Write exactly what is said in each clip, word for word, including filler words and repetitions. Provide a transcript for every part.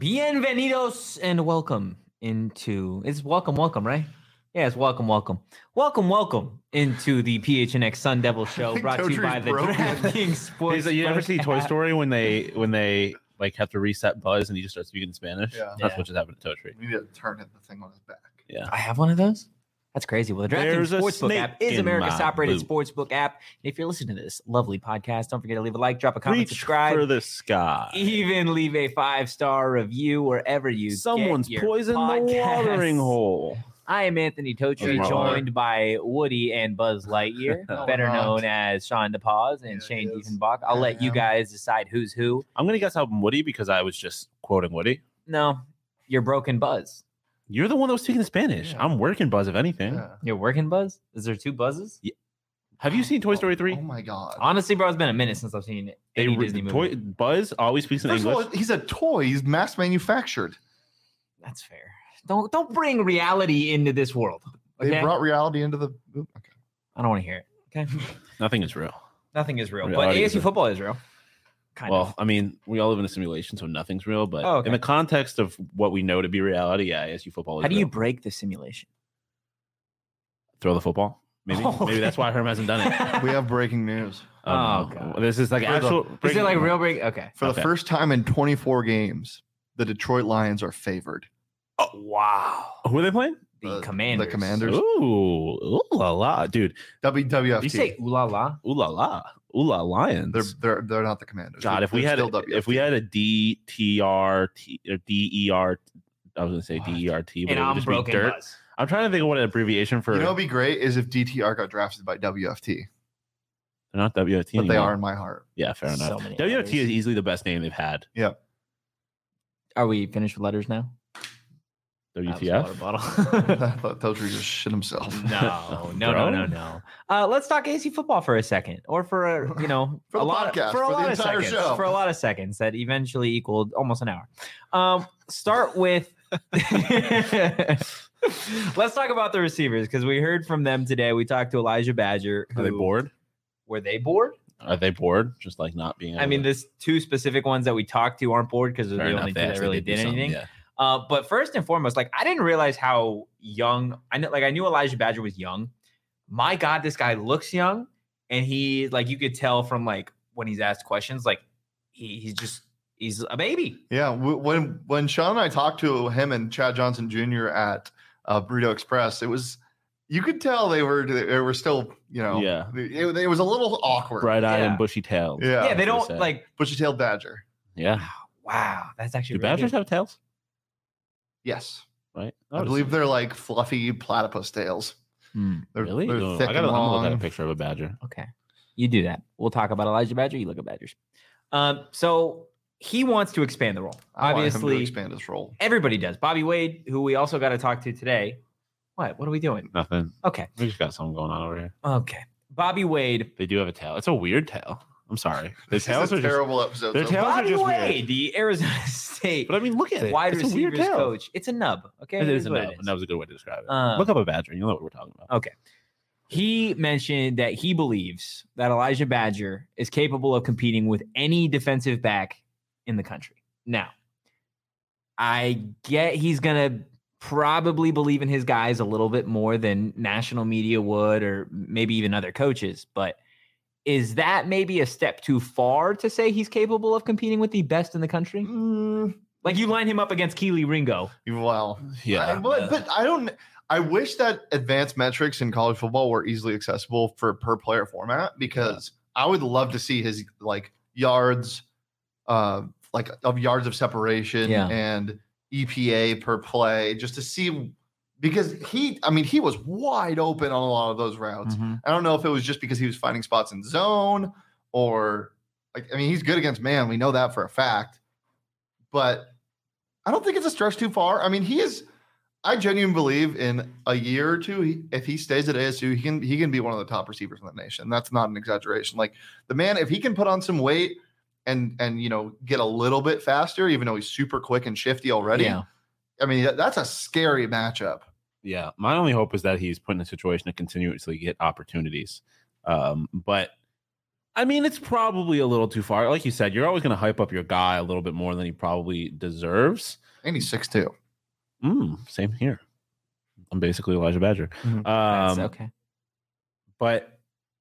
Bienvenidos and welcome into it's welcome, welcome, right? Yeah, it's welcome, welcome, welcome, welcome into the P H N X Sun Devil Show, brought to you by the DraftKings Sports. You ever see Toy Story when they when they like have to reset Buzz and he just starts speaking Spanish? Yeah, that's yeah. what just happened to Toadtree. We need to turn the thing on his back. Yeah, I have one of those. That's crazy. Well, the DraftKings There's a Sportsbook snake app is in America's my top-rated boot. sportsbook app. And if you're listening to this lovely podcast, don't forget to leave a like, drop a comment, reach subscribe, for the sky. even leave a five-star review wherever you Someone's get your poisoned the podcasts. watering hole. I am Anthony Toadtree, That's my joined by Woody and Buzz Lightyear, No, better I'm not. known as Sean DePaz and Yeah, Shane he is. Diefenbach. I'll I let you am. guys decide who's who. I'm gonna guess I'm Woody because I was just quoting Woody. No, you're broken Buzz. You're the one that was speaking Spanish. Yeah. I'm working Buzz, if anything. Yeah. You're working Buzz? Is there two Buzzes? Have you seen Toy Story three? Oh my god. Honestly, bro, it's been a minute since I've seen They any re- Disney movie. Toy, Buzz always speaks in First of English. all, he's a toy. He's mass manufactured. That's fair. Don't don't bring reality into this world. They Okay? brought reality into the. Oop, okay. I don't want to hear it. Okay. Nothing is real. Nothing is real, but Reality A is S U real. football is real. Kind well, of. I mean, we all live in a simulation, so nothing's real. But Oh, okay. in the context of what we know to be reality, yeah, A S U football is How do you real. break the simulation? Throw the football? Maybe. Oh, Maybe that's okay. why Herm hasn't done it. We have breaking news. Oh, Um, God. This is like For the- actual. Is it like real break? Okay. For Okay. the first time in twenty-four games, the Detroit Lions are favored. Oh, wow. Who are they playing? The Uh, Commanders. The Commanders. Ooh, ooh la la, dude. W W F T. You say ooh la la? Ooh la la, ooh la Lions. they're they're they're not the Commanders. God, They're- if we they're had still a, W F T. if we had a D T R T or D E R, I was gonna say What? D E R T, but And it would I'm just be broken dirt. Buzz. I'm trying to think of what an abbreviation for. you know, what'd be great is if D T R got drafted by W F T, they're not W F T, but they anymore. are in my heart. Yeah, fair So enough. many W F T letters. is easily the best name they've had. Are we finished with letters now? W T That was F. a water bottle. I thought Toadtree just shit himself. No, no, no, Bro. no, no. Uh, let's talk A S U football for a second, or for a, you know, For a the lot podcast, of, for a for the lot of entire seconds, show. for a lot of seconds that eventually equaled almost an hour. Um, start with. Let's talk about the receivers because we heard from them today. We talked to Elijah Badger. Are they who- bored? Were they bored? Are they bored? Just like not being. I able mean, to- there's two specific ones that we talked to aren't bored because they're fair the enough, only two they that actually really do did something, anything. Yeah. Uh, but first and foremost, like I didn't realize how young I know. Like I knew Elijah Badger was young. My God, this guy looks young, and he like you could tell from like when he's asked questions, like he, he's just he's a baby. Yeah, w- when when Sean and I talked to him and Chad Johnson Junior at uh, Burrito Express, it was you could tell they were they were still you know Yeah. it, it was a little awkward. Bright-eyed Yeah. and bushy-tailed. Yeah, Yeah, they that's what don't said. like. bushy tailed badger. Yeah. Wow, that's actually Do really badgers good. have tails? Yes, Right. I believe they're like fluffy platypus tails. Hmm, They're, Really? they're Oh, thick I gotta and I'm gonna look at a long. picture of a badger. Okay, you do that. We'll talk about Elijah Badger. You look at Badgers. Um, so he wants to expand the role. I want him to Obviously, expand his role. everybody does. Bobby Wade, who we also got to talk to today. What? What are we doing? Nothing. Okay. We just got something going on over here. Okay. Bobby Wade. They do have a tail. It's a weird tail. I'm sorry. The This tails is a are just. terrible episode. their so tails- Those are Bobby just Wade, weird. the Arizona State But I mean, look at it. wide It's a weird receivers tail. coach. It's a nub. Okay. It is a what nub. it And that was a good way to describe it. Um, look up a badger. You know what we're talking about. Okay. He mentioned that he believes that Elijah Badger is capable of competing with any defensive back in the country. Now, I get he's going to probably believe in his guys a little bit more than national media would, or maybe even other coaches. But is that maybe a step too far to say he's capable of competing with the best in the country? Mm, Like you line him up against Keely Ringo. well, Yeah. I, but, but I don't. I wish that advanced metrics in college football were easily accessible for per player format because I would love to see his like yards, uh, like of yards of separation Yeah. and E P A per play, just to see because he, I mean, he was wide open on a lot of those routes. I don't know if it was just because he was finding spots in zone or like, I mean, he's good against man. We know that for a fact, but I don't think it's a stretch too far. I mean, he is. I genuinely believe in a year or two, he, if he stays at A S U, he can he can be one of the top receivers in the nation. That's not an exaggeration. Like the man, if he can put on some weight and and you know get a little bit faster, even though he's super quick and shifty already. Yeah. I mean, that- that's a scary matchup. Yeah. My only hope is that he's put in a situation to continuously get opportunities. Um, but I mean, it's probably a little too far. Like you said, you're always going to hype up your guy a little bit more than he probably deserves. And he's six two. Mm, same here. I'm basically Elijah Badger. Mhm. Um, That's okay. But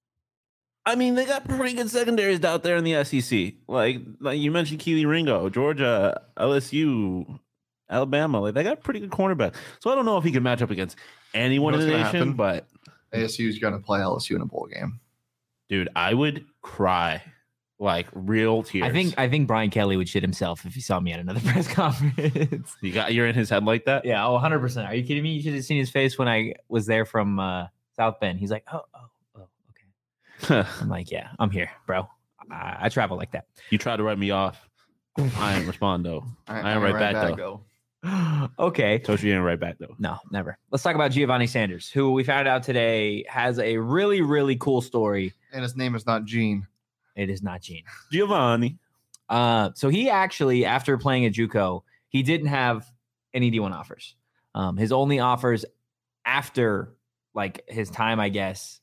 I mean, they got pretty good secondaries out there in the S E C. Like, like you mentioned, Keely Ringo, Georgia, L S U, Alabama. Like, they got pretty good cornerbacks. So I don't know if he can match up against anyone You know in the what's nation. gonna But A S U is going to play L S U in a bowl game. dude, I would cry like real tears. I think I think Brian Kelly would shit himself if he saw me at another press conference. you got you're in his head like that. Yeah, oh, one hundred percent. Are you kidding me? You should have seen his face when I was there from uh, South Bend. He's like, oh, oh, oh, okay. I'm like, yeah, I'm here, bro. I, I travel like that. You tried to write me off. I ain't respond though. I ain't I right back, though. Okay. Told you ain't right back though. No, never. Let's talk about Giovanni Sanders, who we found out today has a really, really cool story. And his name is not Gene. It is not Gene. Giovanni. Uh, so he actually, after playing at JUCO, he didn't have any D one offers. Um, his only offers after like his time, I guess,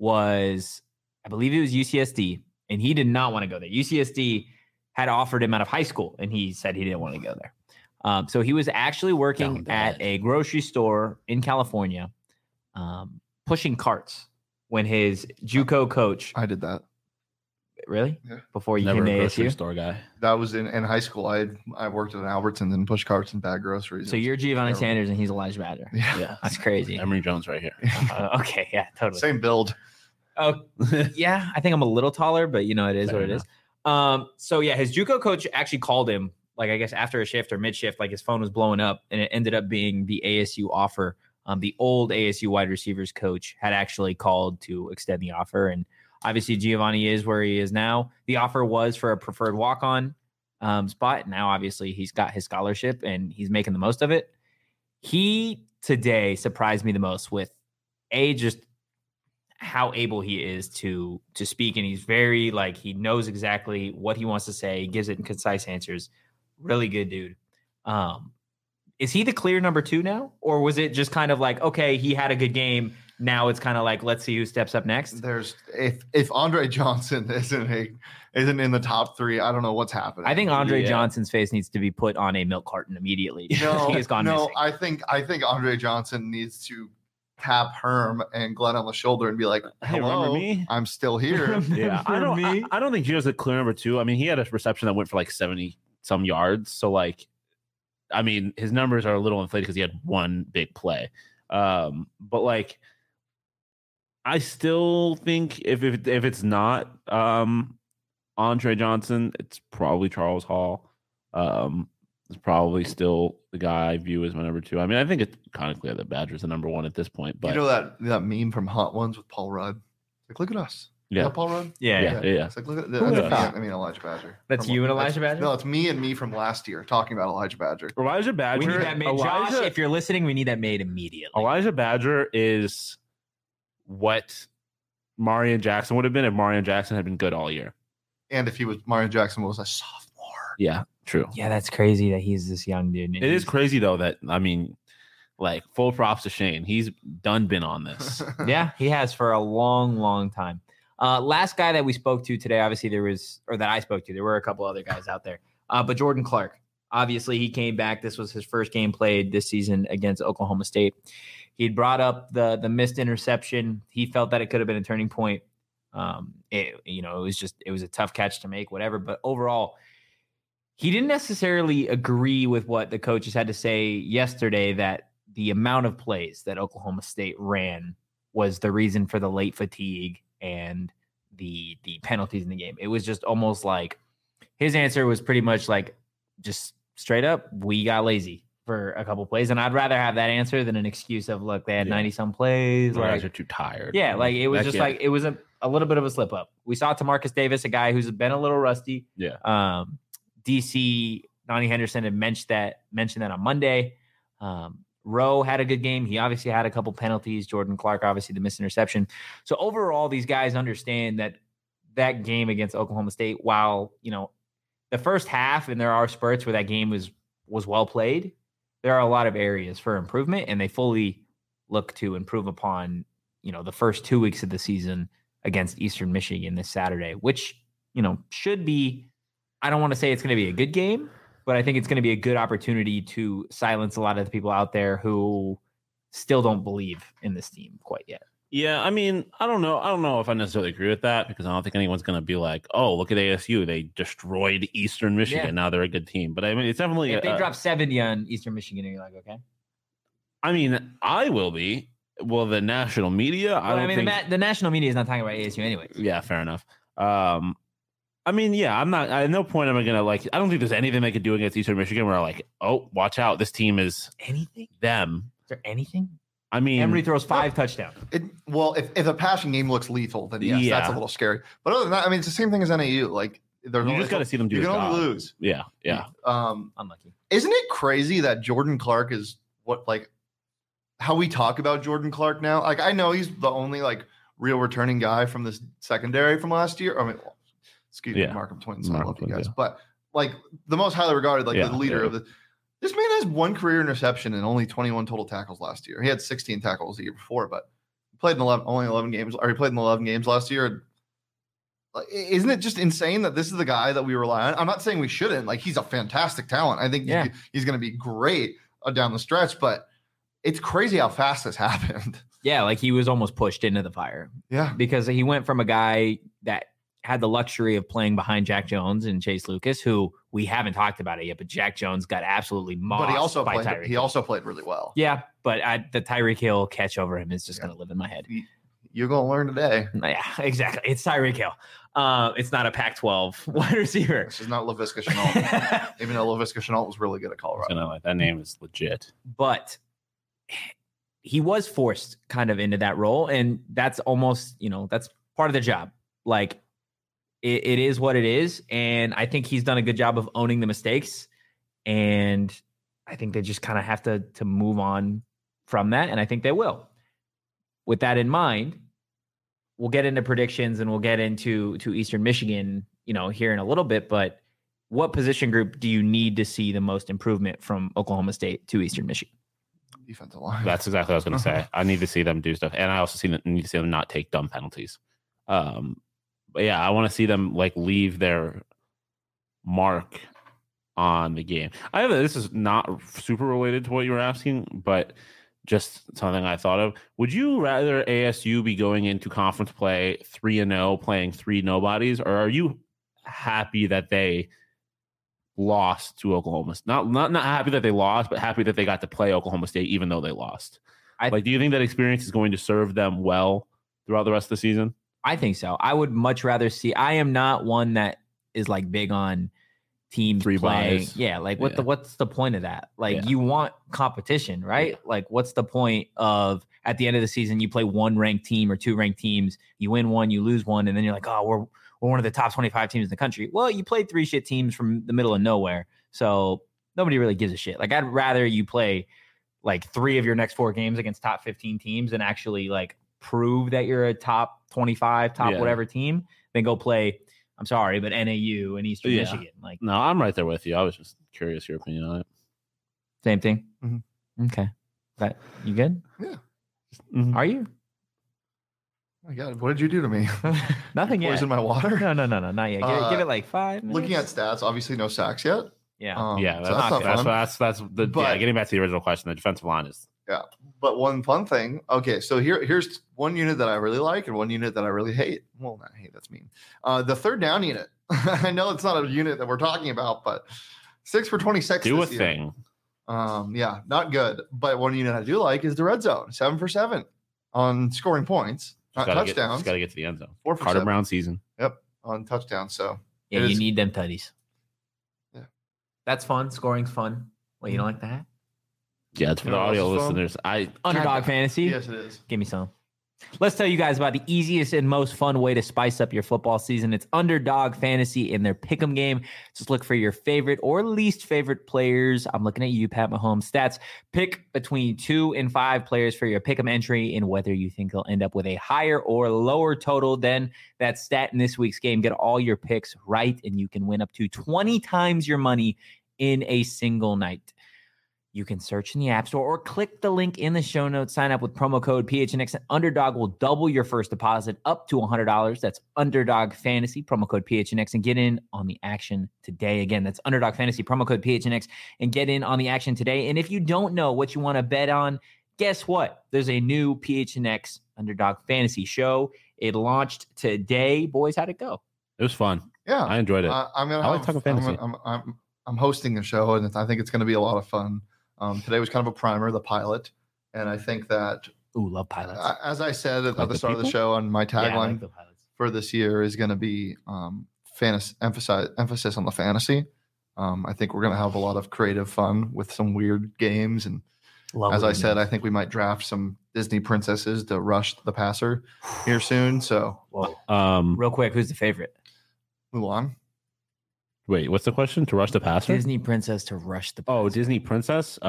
was I believe it was U C S D, and he did not want to go there. U C S D had offered him out of high school, and he said he didn't want to go there. Um, so he was actually working at a grocery store in California, um, pushing carts when his JUCO coach. I did that. Really? Yeah. Before you Never came a to grocery A S U? store guy. That was in, in high school. I had, I worked at an Albertsons and pushed carts and bag groceries. So It was you're Giovanni terrible. Sanders and he's Elijah Badger. Yeah. Yeah. That's crazy. Emory Jones right here. Uh, okay, yeah, totally. Same build. Oh, yeah, I think I'm a little taller, but you know, it is Fair what it enough. is. Um, so yeah, his JUCO coach actually called him, like I guess after a shift or mid shift, like his phone was blowing up, and it ended up being the A S U offer. Um, the old A S U wide receivers coach had actually called to extend the offer, and obviously Giovanni is where he is now. The offer was for a preferred walk on um, spot. Now, obviously, he's got his scholarship and he's making the most of it. He today surprised me the most with a just how able he is to to speak, and he's very like he knows exactly what he wants to say. He gives it in concise answers. Really good dude. Um, is he the clear number two now, or was it just kind of like okay, he had a good game? Now it's kind of like let's see who steps up next. There's if if Andre Johnson isn't a isn't in the top three, I don't know what's happening. I think Andre Yeah. Johnson's face needs to be put on a milk carton immediately. no, he has gone no. missing. I think I think Andre Johnson needs to tap Herm and Glenn on the shoulder and be like, Hey, "Hello, remember me?" I'm still here." Yeah, I don't. I, me. I don't think Gio's a clear number two. I mean, he had a reception that went for like seventy some yards. So like, I mean, his numbers are a little inflated because he had one big play. Um, but like, I still think if if if it's not um Andre Johnson, it's probably Charles Hall. Um, it's probably still the guy I view as my number two. I mean, I think it's kind of clear that Badger's the number one at this point. But you know that that meme from Hot Ones with Paul Rudd? Like, look at us. yeah, Yeah, Paul Rudd. yeah, yeah, yeah, yeah. It's like, look at Who that's would've me, thought? I mean, Elijah Badger. That's From- you and that's- Elijah Badger? No, it's me and me from last year talking about Elijah Badger. Elijah Badger. We need that made. Josh, Elijah, if you're listening, we need that made immediately. Elijah Badger is what Marion Jackson would have been if Marion Jackson had been good all year. And if he was Mario Jackson was a sophomore. Yeah, true. Yeah, that's crazy that he's this young dude. and It is he's- crazy though that I mean, like full props to Shane. He's done been on this. Yeah, he has for a long, long time. Uh, last guy that we spoke to today, obviously there was, or that I spoke to, there were a couple other guys out there. Uh, but Jordan Clark, obviously he came back. This was his first game played this season against Oklahoma State. He'd brought up the the missed interception. He felt that it could have been a turning point. Um, it, you know, it was just it was a tough catch to make, whatever. But overall, he didn't necessarily agree with what the coaches had to say yesterday, that the amount of plays that Oklahoma State ran was the reason for the late fatigue and the the penalties in the game. It was just almost like his answer was pretty much like just straight up, we got lazy for a couple plays. And I'd rather have that answer than an excuse of, look, they had Yeah. ninety some plays. You guys Like, are too tired. yeah, like it was That just kid- like it was a, a little bit of a slip up. We saw Tamarcus Davis, a guy who's been a little rusty. Yeah. Um, D C Donnie Henderson had mentioned that mentioned that on Monday. Um, Rowe had a good game. He obviously had a couple penalties. Jordan Clark, obviously the missed interception. So overall, these guys understand that that game against Oklahoma State, while you know the first half, and there are spurts where that game was was well played, there are a lot of areas for improvement, and they fully look to improve upon you know the first two weeks of the season against Eastern Michigan this Saturday, which, you know, should be, I don't want to say it's going to be a good game, but I think it's going to be a good opportunity to silence a lot of the people out there who still don't believe in this team quite yet. Yeah, I mean, I don't know. I don't know if I necessarily agree with that because I don't think anyone's going to be like, "Oh, look at A S U. They destroyed Eastern Michigan. Yeah. Now they're a good team." But I mean, it's definitely If they uh, drop seventy on Eastern Michigan, and you're like, okay. I mean, I will be. Well, the national media. I Well, don't I mean, think. the, ma- the national media is not talking about A S U anyways. Yeah, fair enough. Um, I mean, yeah, I'm not. At no point am I gonna like. I don't think there's anything they could do against Eastern Michigan where I'm like, "Oh, watch out, this team is Anything? them." Is there anything? I mean, Emory throws five touchdowns. It, well, if, if a passing game looks lethal, then yes, Yeah. that's a little scary. But other than that, I mean, it's the same thing as N A U. Like, there's you only just got to see them do. you a can only job. lose. Yeah, yeah. Um, Unlucky. isn't it crazy that Jordan Clark is what like how we talk about Jordan Clark now? Like, I know he's the only like real returning guy from this secondary from last year. I mean, well, excuse Yeah. me, Markham Twins. I Markham love you Twins, guys, yeah. but like the most highly regarded, like Yeah, the leader yeah. of the. This man has one career interception and only twenty-one total tackles last year. He had sixteen tackles the year before, but he played in eleven, only eleven games, or he played in eleven games last year. Like, isn't it just insane that this is the guy that we rely on? I'm not saying we shouldn't. Like, he's a fantastic talent. I think Yeah. he- he's going to be great uh, down the stretch, but it's crazy how fast this happened. Yeah, like he was almost pushed into the fire Yeah. because he went from a guy that had the luxury of playing behind Jack Jones and Chase Lucas, who we haven't talked about it yet, but Jack Jones got absolutely mossed But he also by played. Tyreek He Hill. also played really well. Yeah, but I, the Tyreek Hill catch over him is just Yeah. going to live in my head. You're going to learn today. Yeah, exactly. It's Tyreek Hill. Uh, it's not a Pac twelve wide receiver. This is not LaVisca Chenault, even though LaVisca Chenault was really good at Colorado. Gonna, like, that name is legit. But he was forced kind of into that role, and that's almost, you know, that's part of the job. Like it, it is what it is, and I think he's done a good job of owning the mistakes, and I think they just kind of have to to move on from that, and I think they will. With that in mind, we'll get into predictions and we'll get into to Eastern Michigan, you know, here in a little bit, but what position group do you need to see the most improvement from Oklahoma State to Eastern Michigan? Defensive line. That's exactly what I was going to say. I need to see them do stuff, and I also see them, need to see them not take dumb penalties. Um, but yeah, I want to see them like leave their mark on the game. I have a, this is not super related to what you were asking, but just something I thought of. Would you rather A S U be going into conference play three and zero, playing three nobodies, or are you happy that they lost to Oklahoma? Not not not happy that they lost, but happy that they got to play Oklahoma State even though they lost. I- like, do you think that experience is going to serve them well throughout the rest of the season? I think so. I would much rather see. I am not one that is like big on teams Three playing. buys. Yeah, like what Yeah. the what's the point of that? Like Yeah. you want competition, right? Yeah. Like what's the point of at the end of the season you play one ranked team or two ranked teams, you win one, you lose one, and then you're like, oh, we're we're one of the top twenty-five teams in the country. Well, you played three shit teams from the middle of nowhere, so nobody really gives a shit. Like I'd rather you play like three of your next four games against top fifteen teams and actually like prove that you're a top twenty-five, top Yeah. whatever team, then go play. I'm sorry, but N A U and Eastern Yeah. Michigan, like No, I'm right there with you. I was just curious your opinion on it. same thing. Mhm. Okay, that you good? Mhm. Are you? Oh my God, what did you do to me? Nothing yet. Poison my water. No, no, no, no, not yet. Give, it, Uh, give it like five. Minutes. Looking at stats, obviously no sacks yet. yeah, Um, Yeah, so that's that's that's not that's, fun. that's that's the yeah. But- Getting back to the original question, the defensive line is But one fun thing. Okay, so here here's one unit that I really like and one unit that I really hate. Well, not hate, that's mean. Uh, the third down unit. I know it's not a unit that we're talking about, but six for twenty-six. do a this year. thing. Um, yeah, not good. But one unit I do like is the red zone. Seven for seven on scoring points, not Gotta touchdowns. Got to get to the end zone. Four for Carter seven Brown season. on touchdowns. So yeah. it You is- need them tutties. Yeah. That's fun. Scoring's fun. Well, you don't like that? Yeah, it's for You the know what audio else is fun? listeners. I Underdog Kinda. fantasy. yes, it is. Give me some. Let's tell you guys about the easiest and most fun way to spice up your football season. It's Underdog Fantasy in their pick'em game. Just look for your favorite or least favorite players. I'm looking at you, Pat Mahomes stats. Pick between two and five players for your pick'em entry and whether you think they'll end up with a higher or lower total than that stat in this week's game. Get all your picks right, and you can win up to twenty times your money in a single night. You can search in the App Store or click the link in the show notes. Sign up with promo code P H N X and Underdog will double your first deposit up to one hundred dollars. That's Underdog Fantasy, promo code P H N X, and get in on the action today. Again, that's Underdog Fantasy, promo code P H N X, and get in on the action today. And if you don't know what you want to bet on, guess what? There's a new P H N X Underdog Fantasy show. It launched today. Boys, how'd it go? It was fun. Yeah, I enjoyed it. Uh, I'm gonna. I like have, talking fantasy. I'm, I'm, I'm, I'm hosting a show, and I think it's going to be a lot of fun. Um, today was kind of a primer, the pilot, and I think that, Ooh, love pilots. uh, as I said at, Like at the the start of the people? show, on my yeah, I tagline like the pilots. for this year is going to be um, fantasy, emphasize emphasis on the fantasy. Um, I think we're going to have a lot of creative fun with some weird games, and Love as I weird said, names. I think we might draft some Disney princesses to rush the passer here soon. So Whoa. Um, Real quick, who's the favorite? Mulan. wait, what's the question? To rush the passer? Disney princess to rush the Oh, passer. Disney princess.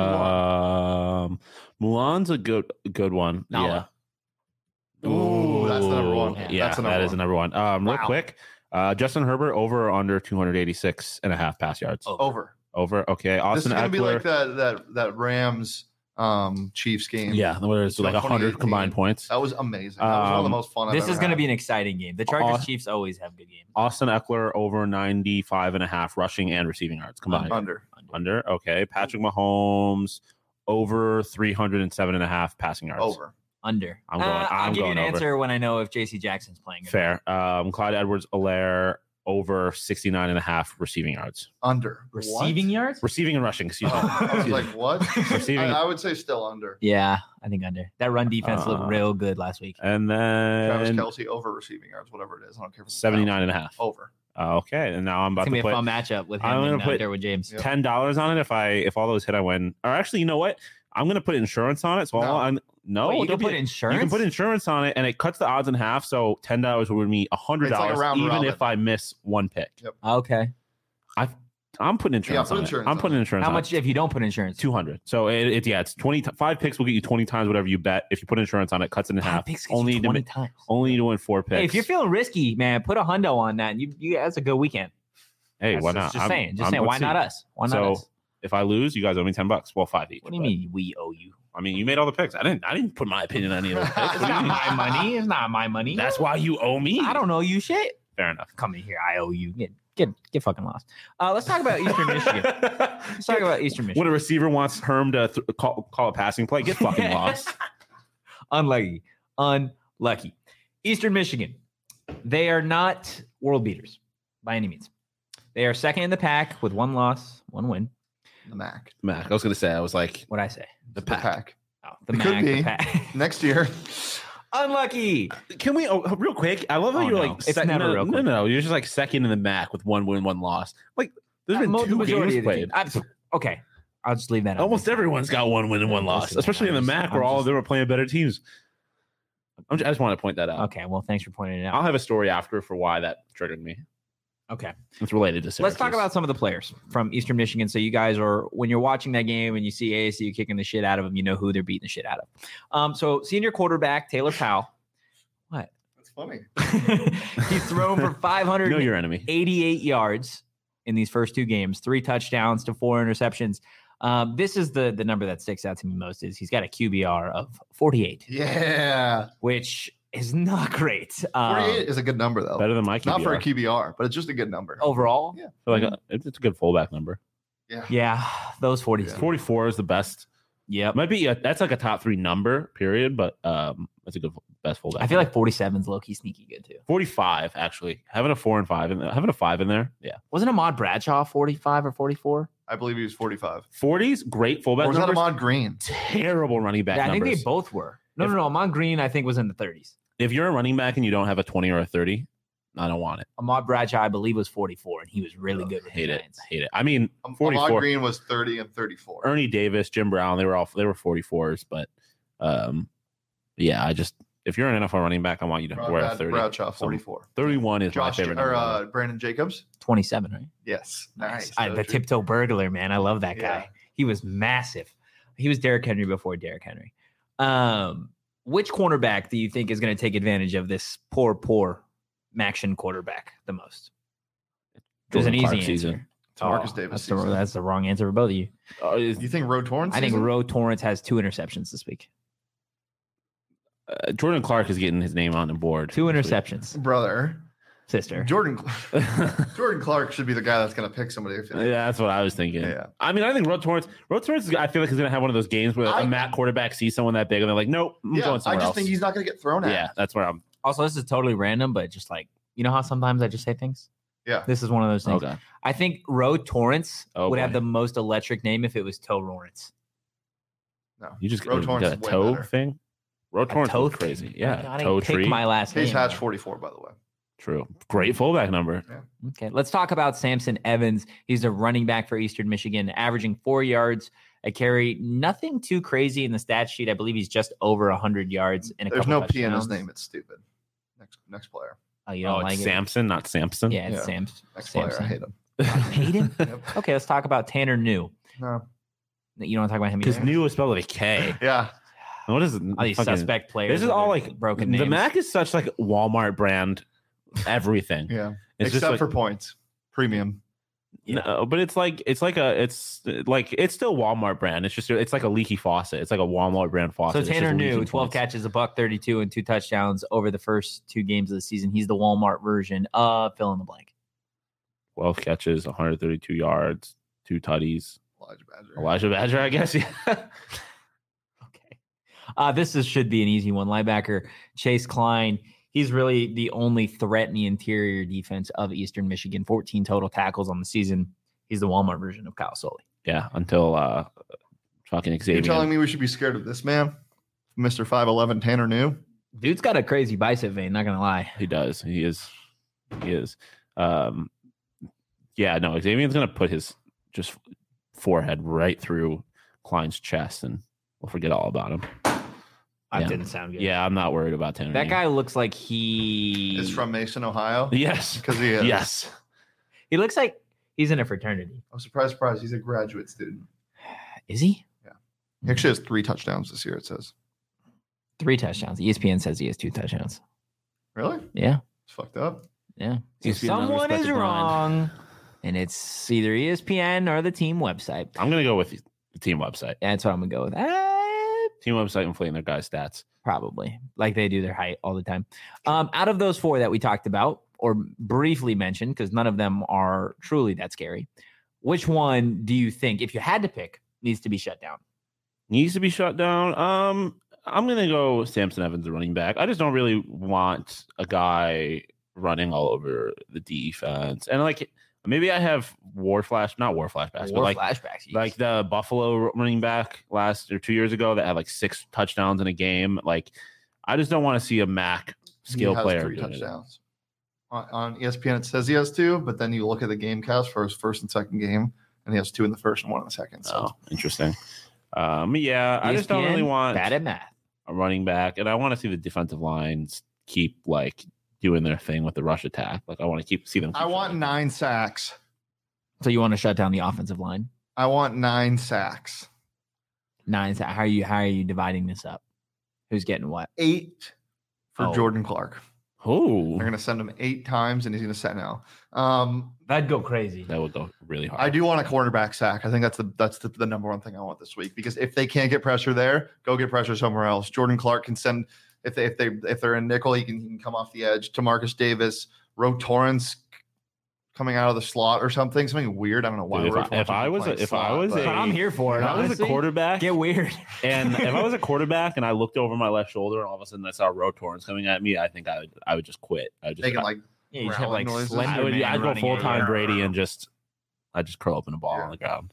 Mulan. Um, Mulan's a good good one. Nala. Yeah. Ooh, that's the number one. Yeah, That's the number that is one. the number one. Um, real Wow. quick, uh, Justin Herbert over or under two eighty-six and a half pass yards. Oh. Over. Over. Okay. This is Austin going to be Eckler. like that that that Rams um, Chiefs game. Yeah, where it's So like one hundred twenty eighteen. combined points. That was amazing. That was one of the Um, most fun I've This ever is going to had. be an exciting game. The Chargers Aw- Chiefs always have good games. Austin Eckler over ninety-five and a half rushing and receiving yards combined. under. Under. Okay. Patrick Mahomes over three hundred seven and a half passing yards. Over. Under. I'm going- Uh, I'll I'm give you an going over. answer when I know if J C Jackson's playing. or Fair. Um, Clyde Edwards-Helaire over sixty-nine and a half receiving yards. Under. not. Receiving yards? Receiving and rushing, excuse me. Oh, I was Excuse like, me. what? Receiving. I, I would say still under. Yeah, I think under. That run defense Uh, looked real good last week. And Travis then Kelsey over receiving yards, whatever it is. I don't care. If it's seventy-nine and a half. Over. Uh, okay. And now I'm It's about gonna be to a put fun matchup with him I'm gonna and uh, put- Derwin James. Yep. ten dollars on it if I if all those hit I win. Or actually, you know what? I'm gonna put insurance on it. So No. I'll, I'm, no, Wait, you don't can put be- insurance. You can put insurance on it, and it cuts the odds in half. So ten dollars would be a hundred It's like a dollars, round even robin. if I miss one pick. Okay. I'm putting insurance put on insurance it. I'm on putting it. insurance. How on much It. if you don't put insurance? Two hundred. So it, it yeah, it's twenty. Five picks will get you twenty times whatever you bet. If you put insurance on it, cuts it in Five half. picks gets you Only to twenty mi- times. only to win four picks. Hey, if you're feeling risky, man, put a hundo on that. And you, you that's a good weekend. hey, That's why just- not? Just I'm- saying. Just I'm- saying. let's Why see. not us? Why not So, us? If I lose, you guys owe me ten bucks. Well, five each. What do you but- mean we owe you? I mean, you made all the picks. I didn't. I didn't put my opinion on any of those picks. It's What do you not mean? my money. It's not my money. That's why you owe me. I don't know you shit. Fair enough. Come in here. I owe you. Get get get fucking lost. Uh, let's talk about Eastern Michigan. Let's talk about Eastern Michigan. When a receiver wants Herm to th- call, call a passing play, get fucking lost. Unlucky. Unlucky. Eastern Michigan. They are not world beaters by any means. They are second in the pack with one loss, one win. The Mac. Mac, I was gonna say, I was like What'd I say? the The pack. pack. Oh, the It Mac, could the be. pack. Next year. Unlucky. Can we oh, real quick? I love how Oh, you're no. like It's sec- never no, real no, quick. no, you're just like second in the Mac with one win, one loss. Like there's been Uh, mo- the two majority games of the played. team. I- okay. I'll just leave that out. Almost everyone's got one win and one Yeah, loss, listen, especially in the I'm just- Mac where I'm all of just- them are playing better teams. I'm just, I just want to point that out. Okay. Well, thanks for pointing it out. I'll have a story after for why that triggered me. Okay. It's related to Syracuse. Let's talk about some of the players from Eastern Michigan. So you guys are, when you're watching that game and you see A S U kicking the shit out of them, you know who they're beating the shit out of. Um, so senior quarterback Taylor Powell. What? That's funny. He's thrown for five hundred know your enemy. eighty-eight yards in these first two games, three touchdowns to four interceptions. Um, this is the the number that sticks out to me most is he's got a Q B R of forty-eight, Yeah. which is not great. Um, forty-eight is a good number, though. Better than my Q B R. Not for a Q B R, but it's just a good number. overall. Yeah. I feel like a, it's it's a good fullback number. Yeah. Yeah, those forty. Yeah. forty-four is the best. Yep. Might be a, that's like a top three number, period. But um, that's a good best fullback. I feel like forty-seven is low key sneaky good too. forty-five actually having a four and five and having a five in there. Yeah, Wasn't Ahmad Bradshaw forty-five or forty-four? I believe he was forty-five. forties great Or fullback was that numbers. Ahmad Green? Terrible running back Yeah, I think numbers. they both were. No, If- no, no. Ahmad Green, I think, was in the thirties. If you're a running back and you don't have a twenty or a thirty, I don't want it. Ahmad Bradshaw, I believe, was forty-four, and he was really good with Hate the it. Giants. Hate it. I mean, Um, Ahmad forty-four. Green was thirty and thirty-four. Ernie Davis, Jim Brown, they were all they were forty-fours, but um, yeah, I just if you're an N F L running back, I want you to Brad, wear a Brad- thirty. Bradshaw, So forty-four. thirty-one is my Josh favorite or number. uh, Brandon Jacobs. twenty-seven, right? Yes. Nice. I, the tiptoe burglar, man. I love that guy. Yeah. He was massive. He was Derrick Henry before Derrick Henry. Um, which cornerback do you think is going to take advantage of this poor, poor Maction quarterback the most? There's an Jordan easy Clark answer. season. Marcus Oh, Davis. That's the, season. that's the wrong answer for both of you. Oh, is, You think Ro Torrance? I think season? Ro Torrance has two interceptions this week. uh, Jordan Clark is getting his name on the board. Two this week. interceptions, brother. sister. Jordan Jordan Clark should be the guy that's going to pick somebody. If Yeah, that's what I was thinking. Yeah. I mean, I think Ro Torrance, Ro Torrance, is, I feel like he's going to have one of those games where I- a Matt quarterback sees someone that big and they're like, nope, I'm yeah, going I somewhere just else. think he's not going to get thrown at. yeah, that's where I'm. Also, this is totally random, but just like, you know how sometimes I just say things? Yeah. This is one of those things. Okay. I think Ro Torrance Oh, would have boy. the most electric name if it was Toe Lawrence. No. You just Ro got Torrance a is way toe better. thing? Ro Torrance toe was crazy. thing. Yeah. I toe didn't pick tree. my last Case name. Hatch forty-four, by the way. True. Great fullback number. Okay, let's talk about Samson Evans. He's a running back for Eastern Michigan, averaging four yards a carry. Nothing too crazy in the stat sheet. I believe he's just over one hundred yards in a There's couple no P in his touchdowns. name. It's stupid. Next next player. Oh, you Oh, don't it's like Samson, not Samson. it? Yeah, it's Yeah. Sam. Next Samson. player. I hate him. Hate him? Yep. Okay, let's talk about Tanner New. No. You don't want to talk about him Because either? new is spelled with a K. Yeah. What is it? All these Fucking- suspect players. This is with all their like broken The names. Mac is such like Walmart brand everything. Yeah. It's Except just like, for points. Premium. no, but it's like it's like a it's like it's still Walmart brand. It's just it's like a leaky faucet. It's like a Walmart brand So faucet. It's Tanner just New, leaking twelve points. catches, a buck thirty-two, and two touchdowns over the first two games of the season. He's the Walmart version of fill in the blank. twelve catches, one hundred thirty-two yards, two tutties. Elijah Badger. Elijah Badger, I guess. Yeah. Okay. Uh, this is, should be an easy one. Linebacker Chase Klein. He's really the only threat in the interior defense of Eastern Michigan. fourteen total tackles on the season. He's the Walmart version of Kyle Sully. Yeah, until uh fucking You're Xavier. telling me we should be scared of this man? Mister five eleven Tanner New? Dude's got a crazy bicep vein, not going to lie. He does. He is. He is. Um, yeah, no, Xavier's going to put his just forehead right through Klein's chest and we'll forget all about him. That Yeah. didn't sound good. Yeah, I'm not worried about Tanner. That New. guy looks like he Is from Mason, Ohio? Yes. Because he is. Yes. He looks like he's in a fraternity. I'm surprised, surprised. He's a graduate student. Is he? He actually has three touchdowns this year, it says. Three touchdowns. E S P N says he has two touchdowns. Really? Yeah. It's fucked up. Yeah. So E S P N someone is unrespected blind. wrong. And it's either E S P N or the team website. I'm going to go with the team website. That's what I'm going to go with. Uh, Team website inflating their guys' stats. probably. Like they do their height all the time. Um, out of those four that we talked about or briefly mentioned, because none of them are truly that scary, which one do you think, if you had to pick, needs to be shut down? Needs to be shut down. Um, I'm gonna go Samson Evans, the running back. I just don't really want a guy running all over the defense. And like maybe I have war flash, not war flashbacks, but Or like flashbacks. like the Buffalo running back last or two years ago that had like six touchdowns in a game. Like I just don't want to see a Mac skill he has player three doing it. touchdowns. On, on E S P N, it says he has two, but then you look at the game cast for his first and second game, and he has two in the first and one in the second. So Oh, interesting. Um, yeah, I just don't really E S P N, want bad at math. a running back, and I want to see the defensive lines keep like doing their thing with the rush attack. Like I want to keep see them. Keep I want showing. nine sacks. So you want to shut down the offensive line? I want nine sacks. Nine. How are you? How are you dividing this up? Who's getting what? Eight for Oh. Jordan Clark. Oh, They're going to send him eight times, and he's going to set now. Um, That'd go crazy. that would go really hard. I do want a cornerback sack. I think that's the that's the, the number one thing I want this week, because if they can't get pressure there, go get pressure somewhere else. Jordan Clark can send if they if they if they're in nickel, he can he can come off the edge. To Marcus Davis, Ro Torrance coming out of the slot or something, something weird. I don't know why. Dude, if Ro I- Torrance if I would be was a- playing if I slot, was but- a- But I'm here for it. If I was a honestly. quarterback, Get weird. and if I was a quarterback and I looked over my left shoulder and all of a sudden I saw Ro Torrance coming at me, I think I would I would just quit. I would just making I, like Yeah, you just have like growling noises. Slender I would Man I'd go running full at time you. Brady and just I'd just curl up in a ball Yeah. on the ground.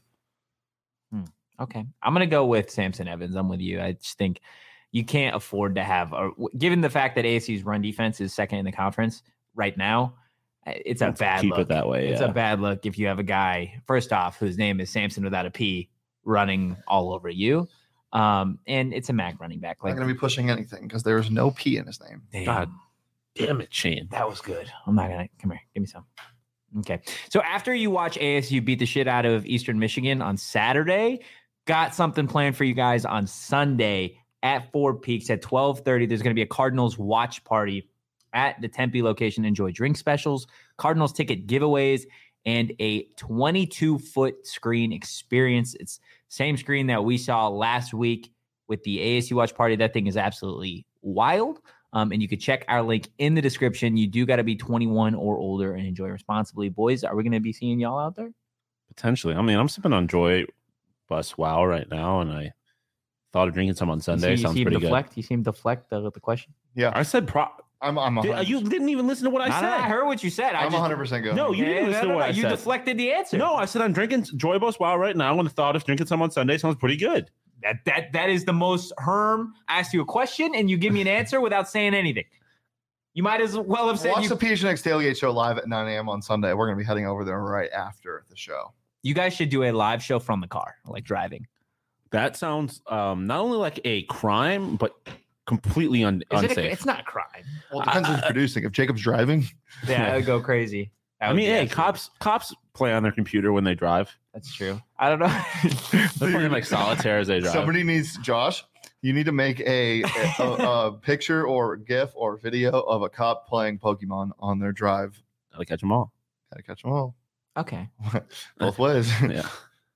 Okay, I'm gonna go with Samson Evans. I'm with you. I just think you can't afford to have, a, given the fact that A S U's run defense is second in the conference right now. It's a Let's bad keep look. it that way. It's yeah. a bad look if you have a guy, first off, whose name is Samson without a P, running all over you. Um, and it's a Mac running back. not Like, going to be pushing anything because there's no P in his name. damn, God damn it, Shane. that was good. I'm not gonna come here. Give me some. Okay. So after you watch A S U beat the shit out of Eastern Michigan on Saturday, got something planned for you guys on Sunday at Four Peaks at twelve thirty. There's going to be a Cardinals watch party at the Tempe location. Enjoy drink specials, Cardinals ticket giveaways, and a twenty-two foot screen experience. It's same screen that we saw last week with the A S U Watch Party. That thing is absolutely wild. Um, and you can check our link in the description. You do got to be twenty-one or older and enjoy responsibly. Boys, are we going to be seeing y'all out there? Potentially. I mean, I'm sipping on Joy Bus Wow right now, and I thought of drinking some on Sunday. You see, Sounds you pretty deflect, good. You seem deflect the, the question. Yeah, I said pro. I'm. I'm. Did, you didn't even listen to what I No, said. no, I heard what you said. I I'm just, one hundred percent going. No, you Yeah, didn't no, listen no, to what no, I you said. deflected the answer. No, I said I'm drinking Joy Bus Wow right now, and the thought of drinking some on Sunday sounds pretty good. That that that is the most Herm asked you a question and you give me an answer without saying anything. You might as well have said Watch you, the P H N X Tailgate Show live at nine a.m. on Sunday. We're going to be heading over there right after the show. you guys should do a live show from the car, like driving. That sounds um, not only like a crime, but completely un- Is it unsafe. a, it's not a crime. Well, it depends I- who's producing. If Jacob's driving, Yeah, I would go crazy. That I would mean, be hey, absolutely- cops cops play on their computer when they drive. That's true. I don't know. They're playing like solitaire as they drive. somebody needs Josh. You need to make a, a, a picture or GIF or video of a cop playing Pokemon on their drive. Gotta catch them all. Gotta catch them all Okay. both ways. Yeah,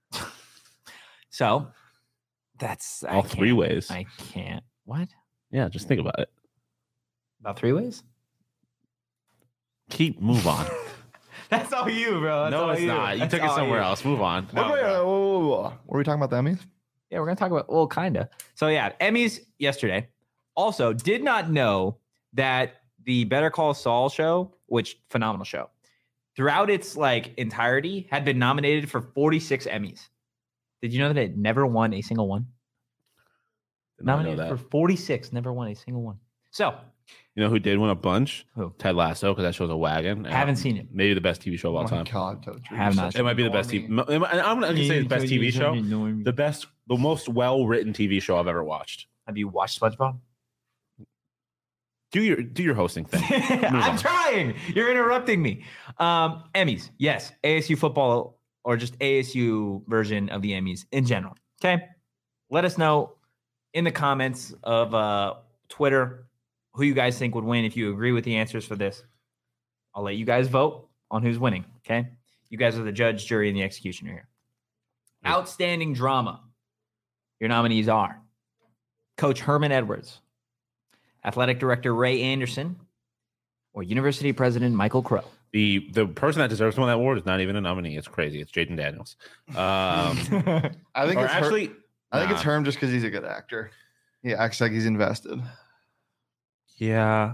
So that's I all can't- three ways. I can't. What? Yeah, just think about it. About three ways? Keep move on. That's all you, bro. That's no, all it's you. not. You That's took it all somewhere you. else. Move on. No, Okay, no. uh, whoa, whoa, whoa, whoa. What are we talking about? The Emmys? Yeah, we're gonna talk about well, kinda. So yeah, Emmys yesterday. Also, did not know that the Better Call Saul show, which phenomenal show, throughout its like entirety, had been nominated for forty-six Emmys. Did you know that it never won a single one? Did not know Nominated that. for forty-six, never won a single one. So You know who did win a bunch? Who? Ted Lasso, because that show's a wagon. I haven't seen it. Maybe the best T V show of all Oh my time. God, Toad, you're Have not such It might be the a best T V. normie. I'm not going to say the best T V show. The The best, the most well-written T V show I've ever watched. Have you watched SpongeBob? Do your do your hosting thing. I'm on. trying. You're interrupting me. Um, Emmys, yes. A S U football or just A S U version of the Emmys in general. Okay. Let us know in the comments of uh, Twitter who you guys think would win. If you agree with the answers for this, I'll let you guys vote on who's winning. Okay. You guys are the judge, jury, and the executioner here. Yeah. Outstanding drama. Your nominees are Coach Herman Edwards, Athletic Director Ray Anderson, or University President Michael Crow. The the person that deserves to win that award is not even a nominee. It's crazy. It's Jaden Daniels. Um, I think or it's actually, Her- I think it's nah. Herm just because he's a good actor. He acts like he's invested. Yeah.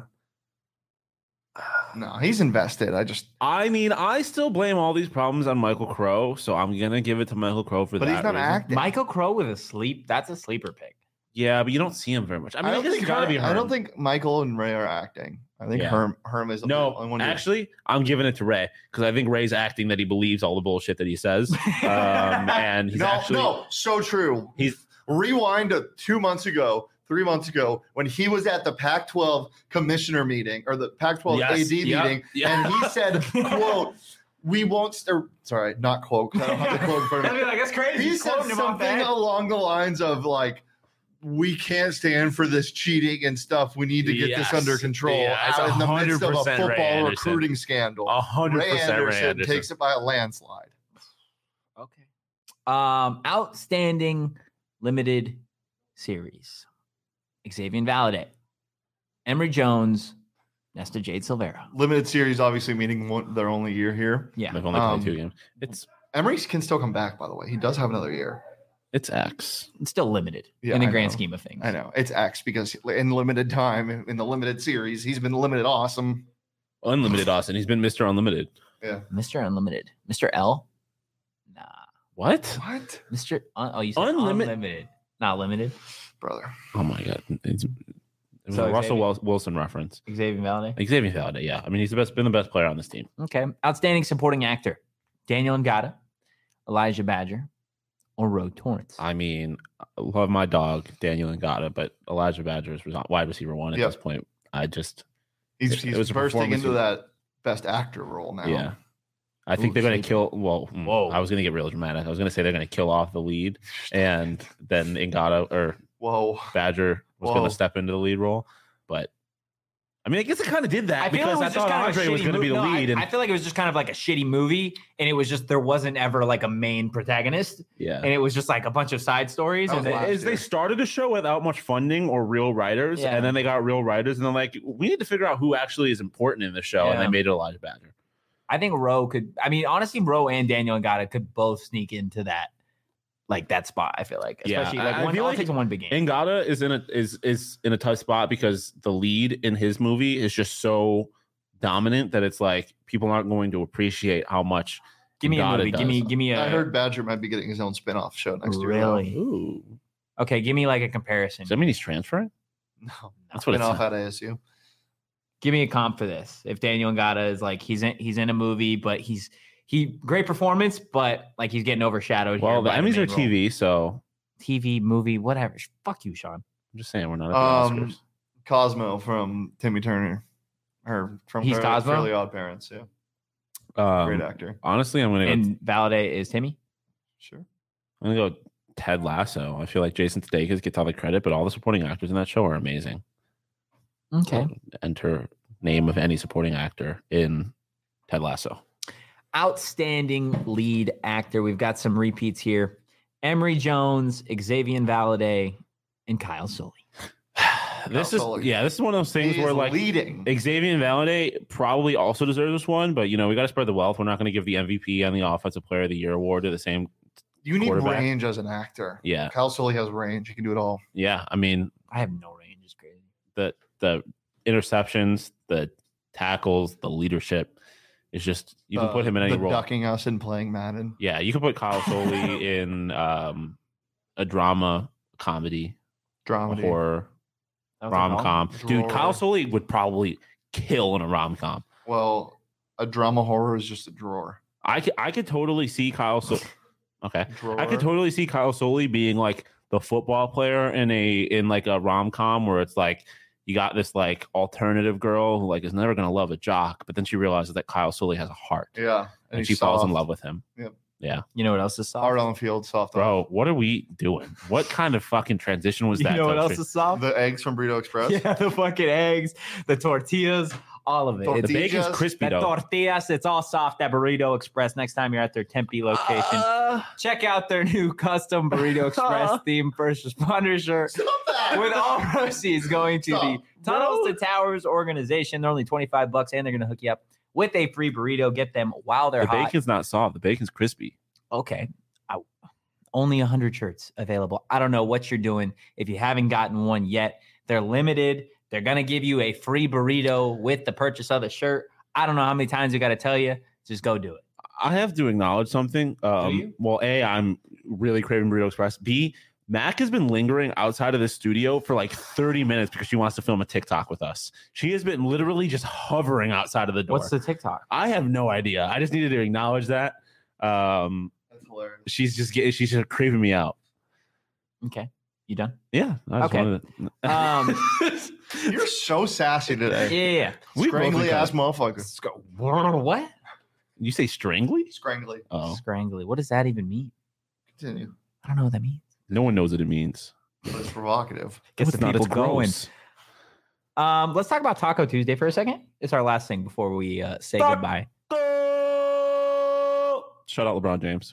No, he's invested. I just, I mean, I still blame all these problems on Michael Crow, so I'm gonna give it to Michael Crow for but that. he's not reason. acting. Michael Crow with a sleep. That's a sleeper pick. Yeah, but you don't see him very much. I mean, I I, don't guess think it's gotta Herm, be Herm. I don't think Michael and Ray are acting. I think Yeah. Herm Herm is the No, only one who- actually, I'm giving it to Ray because I think Ray's acting that he believes all the bullshit that he says, um, and he's no, actually no, so true. he's Rewind to two months ago, three months ago, when he was at the Pac twelve commissioner meeting or the Pac twelve Yes, A D yeah, meeting, yeah. and he said, "quote We won't." St- sorry, not quote. 'Cause I don't have the quote in front of me. I'd be like, that's crazy. He He's said quoting him off something that. along the lines of like, "We can't stand for this cheating and stuff. We need to get Yes. this under control." Yeah, it's out in the midst of a one hundred percent Ray football Anderson. recruiting scandal. a hundred Ray percent Ray Anderson Anderson. takes it by a landslide. Okay. Um, outstanding limited series. Xavier Valade, Emory Jones, Nesta Jade Silvera. Limited series, obviously, meaning one, their only year here. Yeah. They've only Um, played two games. It's Emery can still come back, by the way. He does have another year. it's X. It's still limited Yeah, in the I grand know. scheme of things. I know it's X because in limited time, in the limited series, he's been limited awesome. Unlimited Austin. He's been Mister Unlimited. Mister Unlimited. Mister L? Nah. What? Mister What, Mister Un- oh, you said Unlimi- unlimited. Not limited. brother? Oh my god. It's, it was So a Russell Xavier- Wil- Wilson reference. Xavier Valade. Xavier Valade, yeah. I mean, he's the best, been the best player on this team. Okay. Outstanding supporting actor. Daniel Ngata, Elijah Badger, or Roe Torrance. I mean, I love my dog, Daniel Ngata, but Elijah Badger is wide receiver one at Yep. this point. I just, He's, It- it he's was a bursting performance into he- that best actor role now. yeah. I think Ooh, they're going shade. to kill. Well, mm, Whoa. I was going to get real dramatic. I was going to say they're going to kill off the lead, and then Ngata or Whoa. Badger was going Whoa. to step into the lead role. But I mean, I guess it kind of did that I feel because it I was just thought kind Andre of a was shitty going to be the movie. No, lead. I, and I feel like it was just kind of like a shitty movie, and it was just there wasn't ever like a main protagonist, yeah. and it was just like a bunch of side stories. That And was then, last Is they year. started a show without much funding or real writers, Yeah. and then they got real writers, and they're like, we need to figure out who actually is important in the show, and Yeah. they made it Elijah Badger. I think Roe could. I mean, honestly, Roe and Daniel Ngata could both sneak into that, like that spot. I feel like, Yeah, especially I- like I one. feel All like it takes one big game. Ngata is in a is is in a tough spot because the lead in his movie is just so dominant that it's like people aren't going to appreciate how much. Give me a Ngata movie. Give me. does. Give me a. I heard Badger might be getting his own spin-off show next year. though. Really? Ooh, Okay, give me like a comparison. does that mean he's transferring? No, That's what it's. spin-off at A S U. Give me a comp for this. If Daniel Ngata is like he's in he's in a movie, but he's he great performance, but like he's getting overshadowed. Well, here the by Emmys main are role. T V, so T V, movie, whatever. Fuck you, Sean. I'm just saying we're not at the Um, Oscars. Cosmo from Timmy Turner, or from He's Fairly- Cosmo? Fairly Odd Parents. Yeah, Um, great actor. honestly, I'm gonna go. And Valade is Timmy. Sure. I'm gonna go Ted Lasso. I feel like Jason Sudeikis gets all the credit, but all the supporting actors in that show are amazing. Okay. Enter name of any supporting actor in Ted Lasso. Outstanding lead actor. We've got some repeats here. Emery Jones, Xavier Valade, and Kyle Sully. This Kyle is Sully. yeah, this is one of those things He where is like leading. Xavier Valade probably also deserves this one, but you know we got to spread the wealth. We're not going to give the M V P and the Offensive Player of the Year award to the same. You need quarterback. range as an actor. Yeah, Kyle Sully has range. He can do it all. yeah. I mean I have no range. It's crazy. the the interceptions, the tackles, the leadership is just you can Uh, put him in any the role. ducking us and playing Madden. Yeah, you can put Kyle Soley in um, a drama, comedy, a Dramedy. horror, That was rom a com. Dude, Drawer. Kyle Soley would probably kill in a rom com. Well, a drama horror is just a drawer. I could, I could totally see Kyle. So- okay, Drawer. I could totally see Kyle Soley being like the football player in a in like a rom com where it's like you got this like alternative girl who like is never gonna love a jock, but then she realizes that Kyle Soley has a heart, Yeah. and, he's she falls in soft. love with him. Yep. Yeah, You know what else is soft? Hard on the field, soft on. bro, what are we doing? What kind of fucking transition was You that? know what Toasty? else is soft? The eggs from Burrito Express. Yeah, the fucking eggs, the tortillas, all of it. Tortillas. It's The bacon's crispy the though. tortillas, it's all soft at Burrito Express. Next time you're at their Tempe location, Uh, check out their new custom Burrito Express themed first responder shirt. Stop that. With all proceeds going to the Stop, Tunnels bro. to Towers organization. They're only twenty-five bucks and they're going to hook you up with a free burrito. Get them while they're the hot. bacon's not soft. The bacon's crispy. Okay. I, only one hundred shirts available. I don't know what you're doing. If you haven't gotten one yet, they're limited. They're going to give you a free burrito with the purchase of the shirt. I don't know how many times we got to tell you. Just go do it. I have to acknowledge something. Um, you? Well, A, I'm really craving Burrito Express. B, Mac has been lingering outside of the studio for like thirty minutes because she wants to film a TikTok with us. She has been literally just hovering outside of the door. What's the TikTok? I have no idea. I just needed to acknowledge that. Um, That's hilarious. she's just getting, she's just craving me out. Okay. You done? Yeah. I just Okay. wanted to- Um, You're so sassy yeah, today. yeah, yeah. We both Scrangly been ass kinda- motherfucker. Sc- What? You say strangly? Scrangly. Oh, Scrangly. What does that even mean? Continue. I don't know what that means. no one knows what it means. But it's provocative. Gets It's the not, people it's going. gross. Um, let's talk about Taco Tuesday for a second. It's our last thing before we uh, say Taco- goodbye. Shout out LeBron James.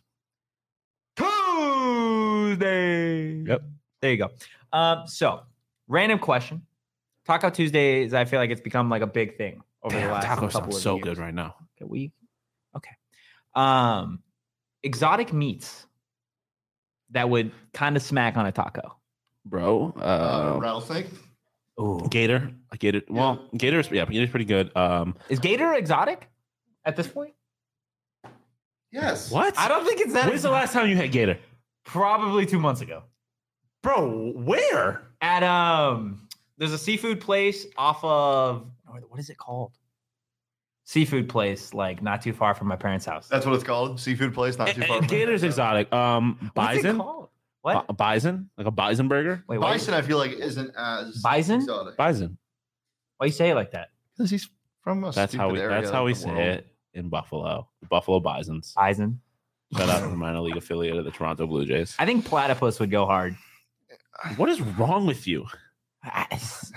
Tuesday. Yep. There you go. Um, so random question. Taco Tuesdays, I feel like it's become like a big thing over the Damn, last taco couple sounds of so years. good right now. Okay, we okay. Um, exotic meats that would kind of smack on a taco. Bro. Uh, Uh, rattlesnake. Ooh. Gator. A Gator. Well, Gator's yeah, Gator's pretty good. Um, Is gator exotic at this point? Yes. what? I don't think it's that. When's the last time you had Gator? Probably two months ago. Bro, where? At um, there's a seafood place off of what is it called? Seafood place, like not too far from my parents' house. That's what it's called. Seafood place, not too far. from Gator's here. exotic. Um, What's it bison. called? What? Bi- bison, like a bison burger. Wait, why, Bison, I feel like, isn't as Bison? exotic. Bison. why you say it like that? Because he's from a That's how stupid we. area That's how of we the say world. it in Buffalo. The Buffalo Bisons. Bison. Shout out to the minor league affiliate of the Toronto Blue Jays. I think platypus would go hard. What is wrong with you? I-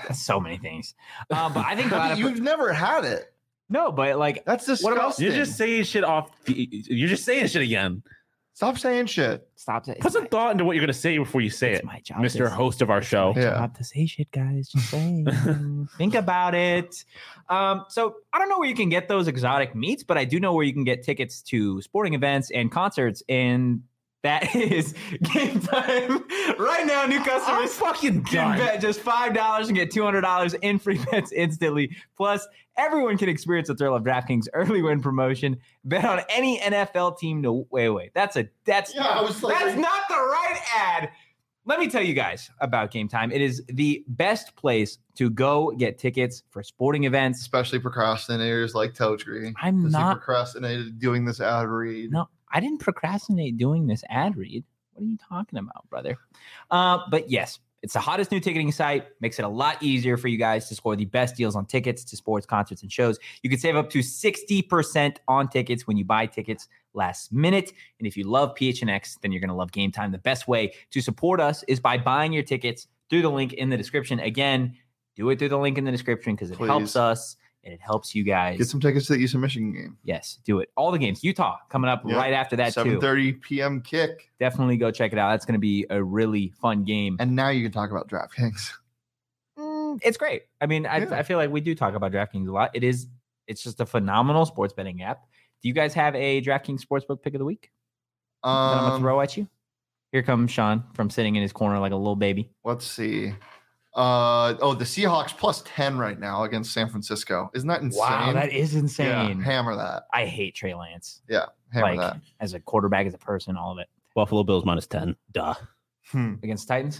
So many things. Uh, but I think a lot of You've never had it. no, but like That's disgusting. What about- You're just saying shit off. You're just saying shit again. Stop saying shit. stop it. Put some thought into what you're gonna say before you say It's it, my job, Mister to- Host of our it's show. my Yeah. job to say shit, guys. Just saying. Think about it. Um, so I don't know where you can get those exotic meats, but I do know where you can get tickets to sporting events and concerts, and that is Game Time. Right now, new I'm customers fucking can done. bet just five dollars and get two hundred dollars in free bets instantly. Plus, everyone can experience the thrill of DraftKings early win promotion. Bet on any N F L team to wait, wait. That's a that's Yeah, I was like- that's not the right ad. Let me tell you guys about Game Time. It is the best place to go get tickets for sporting events. Especially procrastinators like Totri. I'm Because he not. procrastinated doing this ad read. No, I didn't procrastinate doing this ad read. What are you talking about, brother? Uh, but yes, it's the hottest new ticketing site. Makes it a lot easier for you guys to score the best deals on tickets to sports, concerts, and shows. You can save up to sixty percent on tickets when you buy tickets last minute. And if you love P H N X, then you're going to love Game Time. The best way to support us is by buying your tickets through the link in the description. Again, do it through the link in the description because it Please. helps us and it helps you guys. Get some tickets to the Eastern Michigan game. Yes, do it. All the games. Utah coming up Yeah. right after that too. seven thirty p.m. kick. Definitely go check it out. That's going to be a really fun game. And now you can talk about DraftKings. Mm, it's great. I mean, I, Yeah. I feel like we do talk about DraftKings a lot. It is, it's just a phenomenal sports betting app. Do you guys have a DraftKings Sportsbook pick of the week that I'm going to Um, throw at you? Here comes Sean from sitting in his corner like a little baby. let's see. Uh, oh, the Seahawks plus ten right now against San Francisco. Isn't that insane? Wow, that is Yeah, insane. hammer that. I hate Trey Lance. Yeah, hammer Like that. as a quarterback, as a person, all of it. Buffalo Bills minus ten. Duh. Hmm. Against Titans?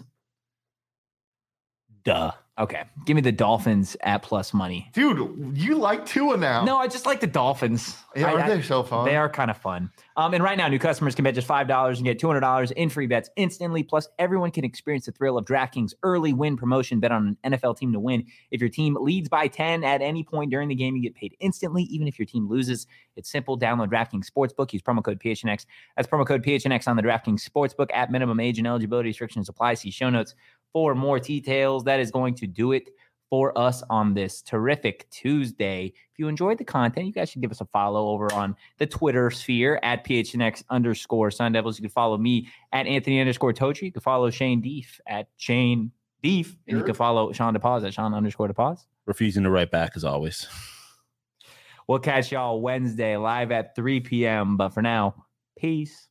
Duh. Okay. Give me the Dolphins at plus money. Dude, you like Tua now. No, I just like the Dolphins. Yeah, I- aren't I- they so fun? They are kind of fun. Um, and right now, new customers can bet just five dollars and get two hundred dollars in free bets instantly. Plus, everyone can experience the thrill of DraftKings early win promotion. Bet on an N F L team to win. If your team leads by ten at any point during the game, you get paid instantly, even if your team loses. It's simple. Download DraftKings Sportsbook. Use promo code P H N X. That's promo code P H N X on the DraftKings Sportsbook. At minimum age and eligibility restrictions apply. See show notes for more details. That is going to do it for us on this terrific Tuesday. If you enjoyed the content, you guys should give us a follow over on the Twitter sphere at P H N X underscore Sun Devils. You can follow me at Anthony underscore Totri. You can follow Shane Deef at Shane Deef. And you Sure. can follow Sean DePaz at Sean underscore DePaz. Refusing to write back as always. We'll catch y'all Wednesday live at three p.m. But for now, peace.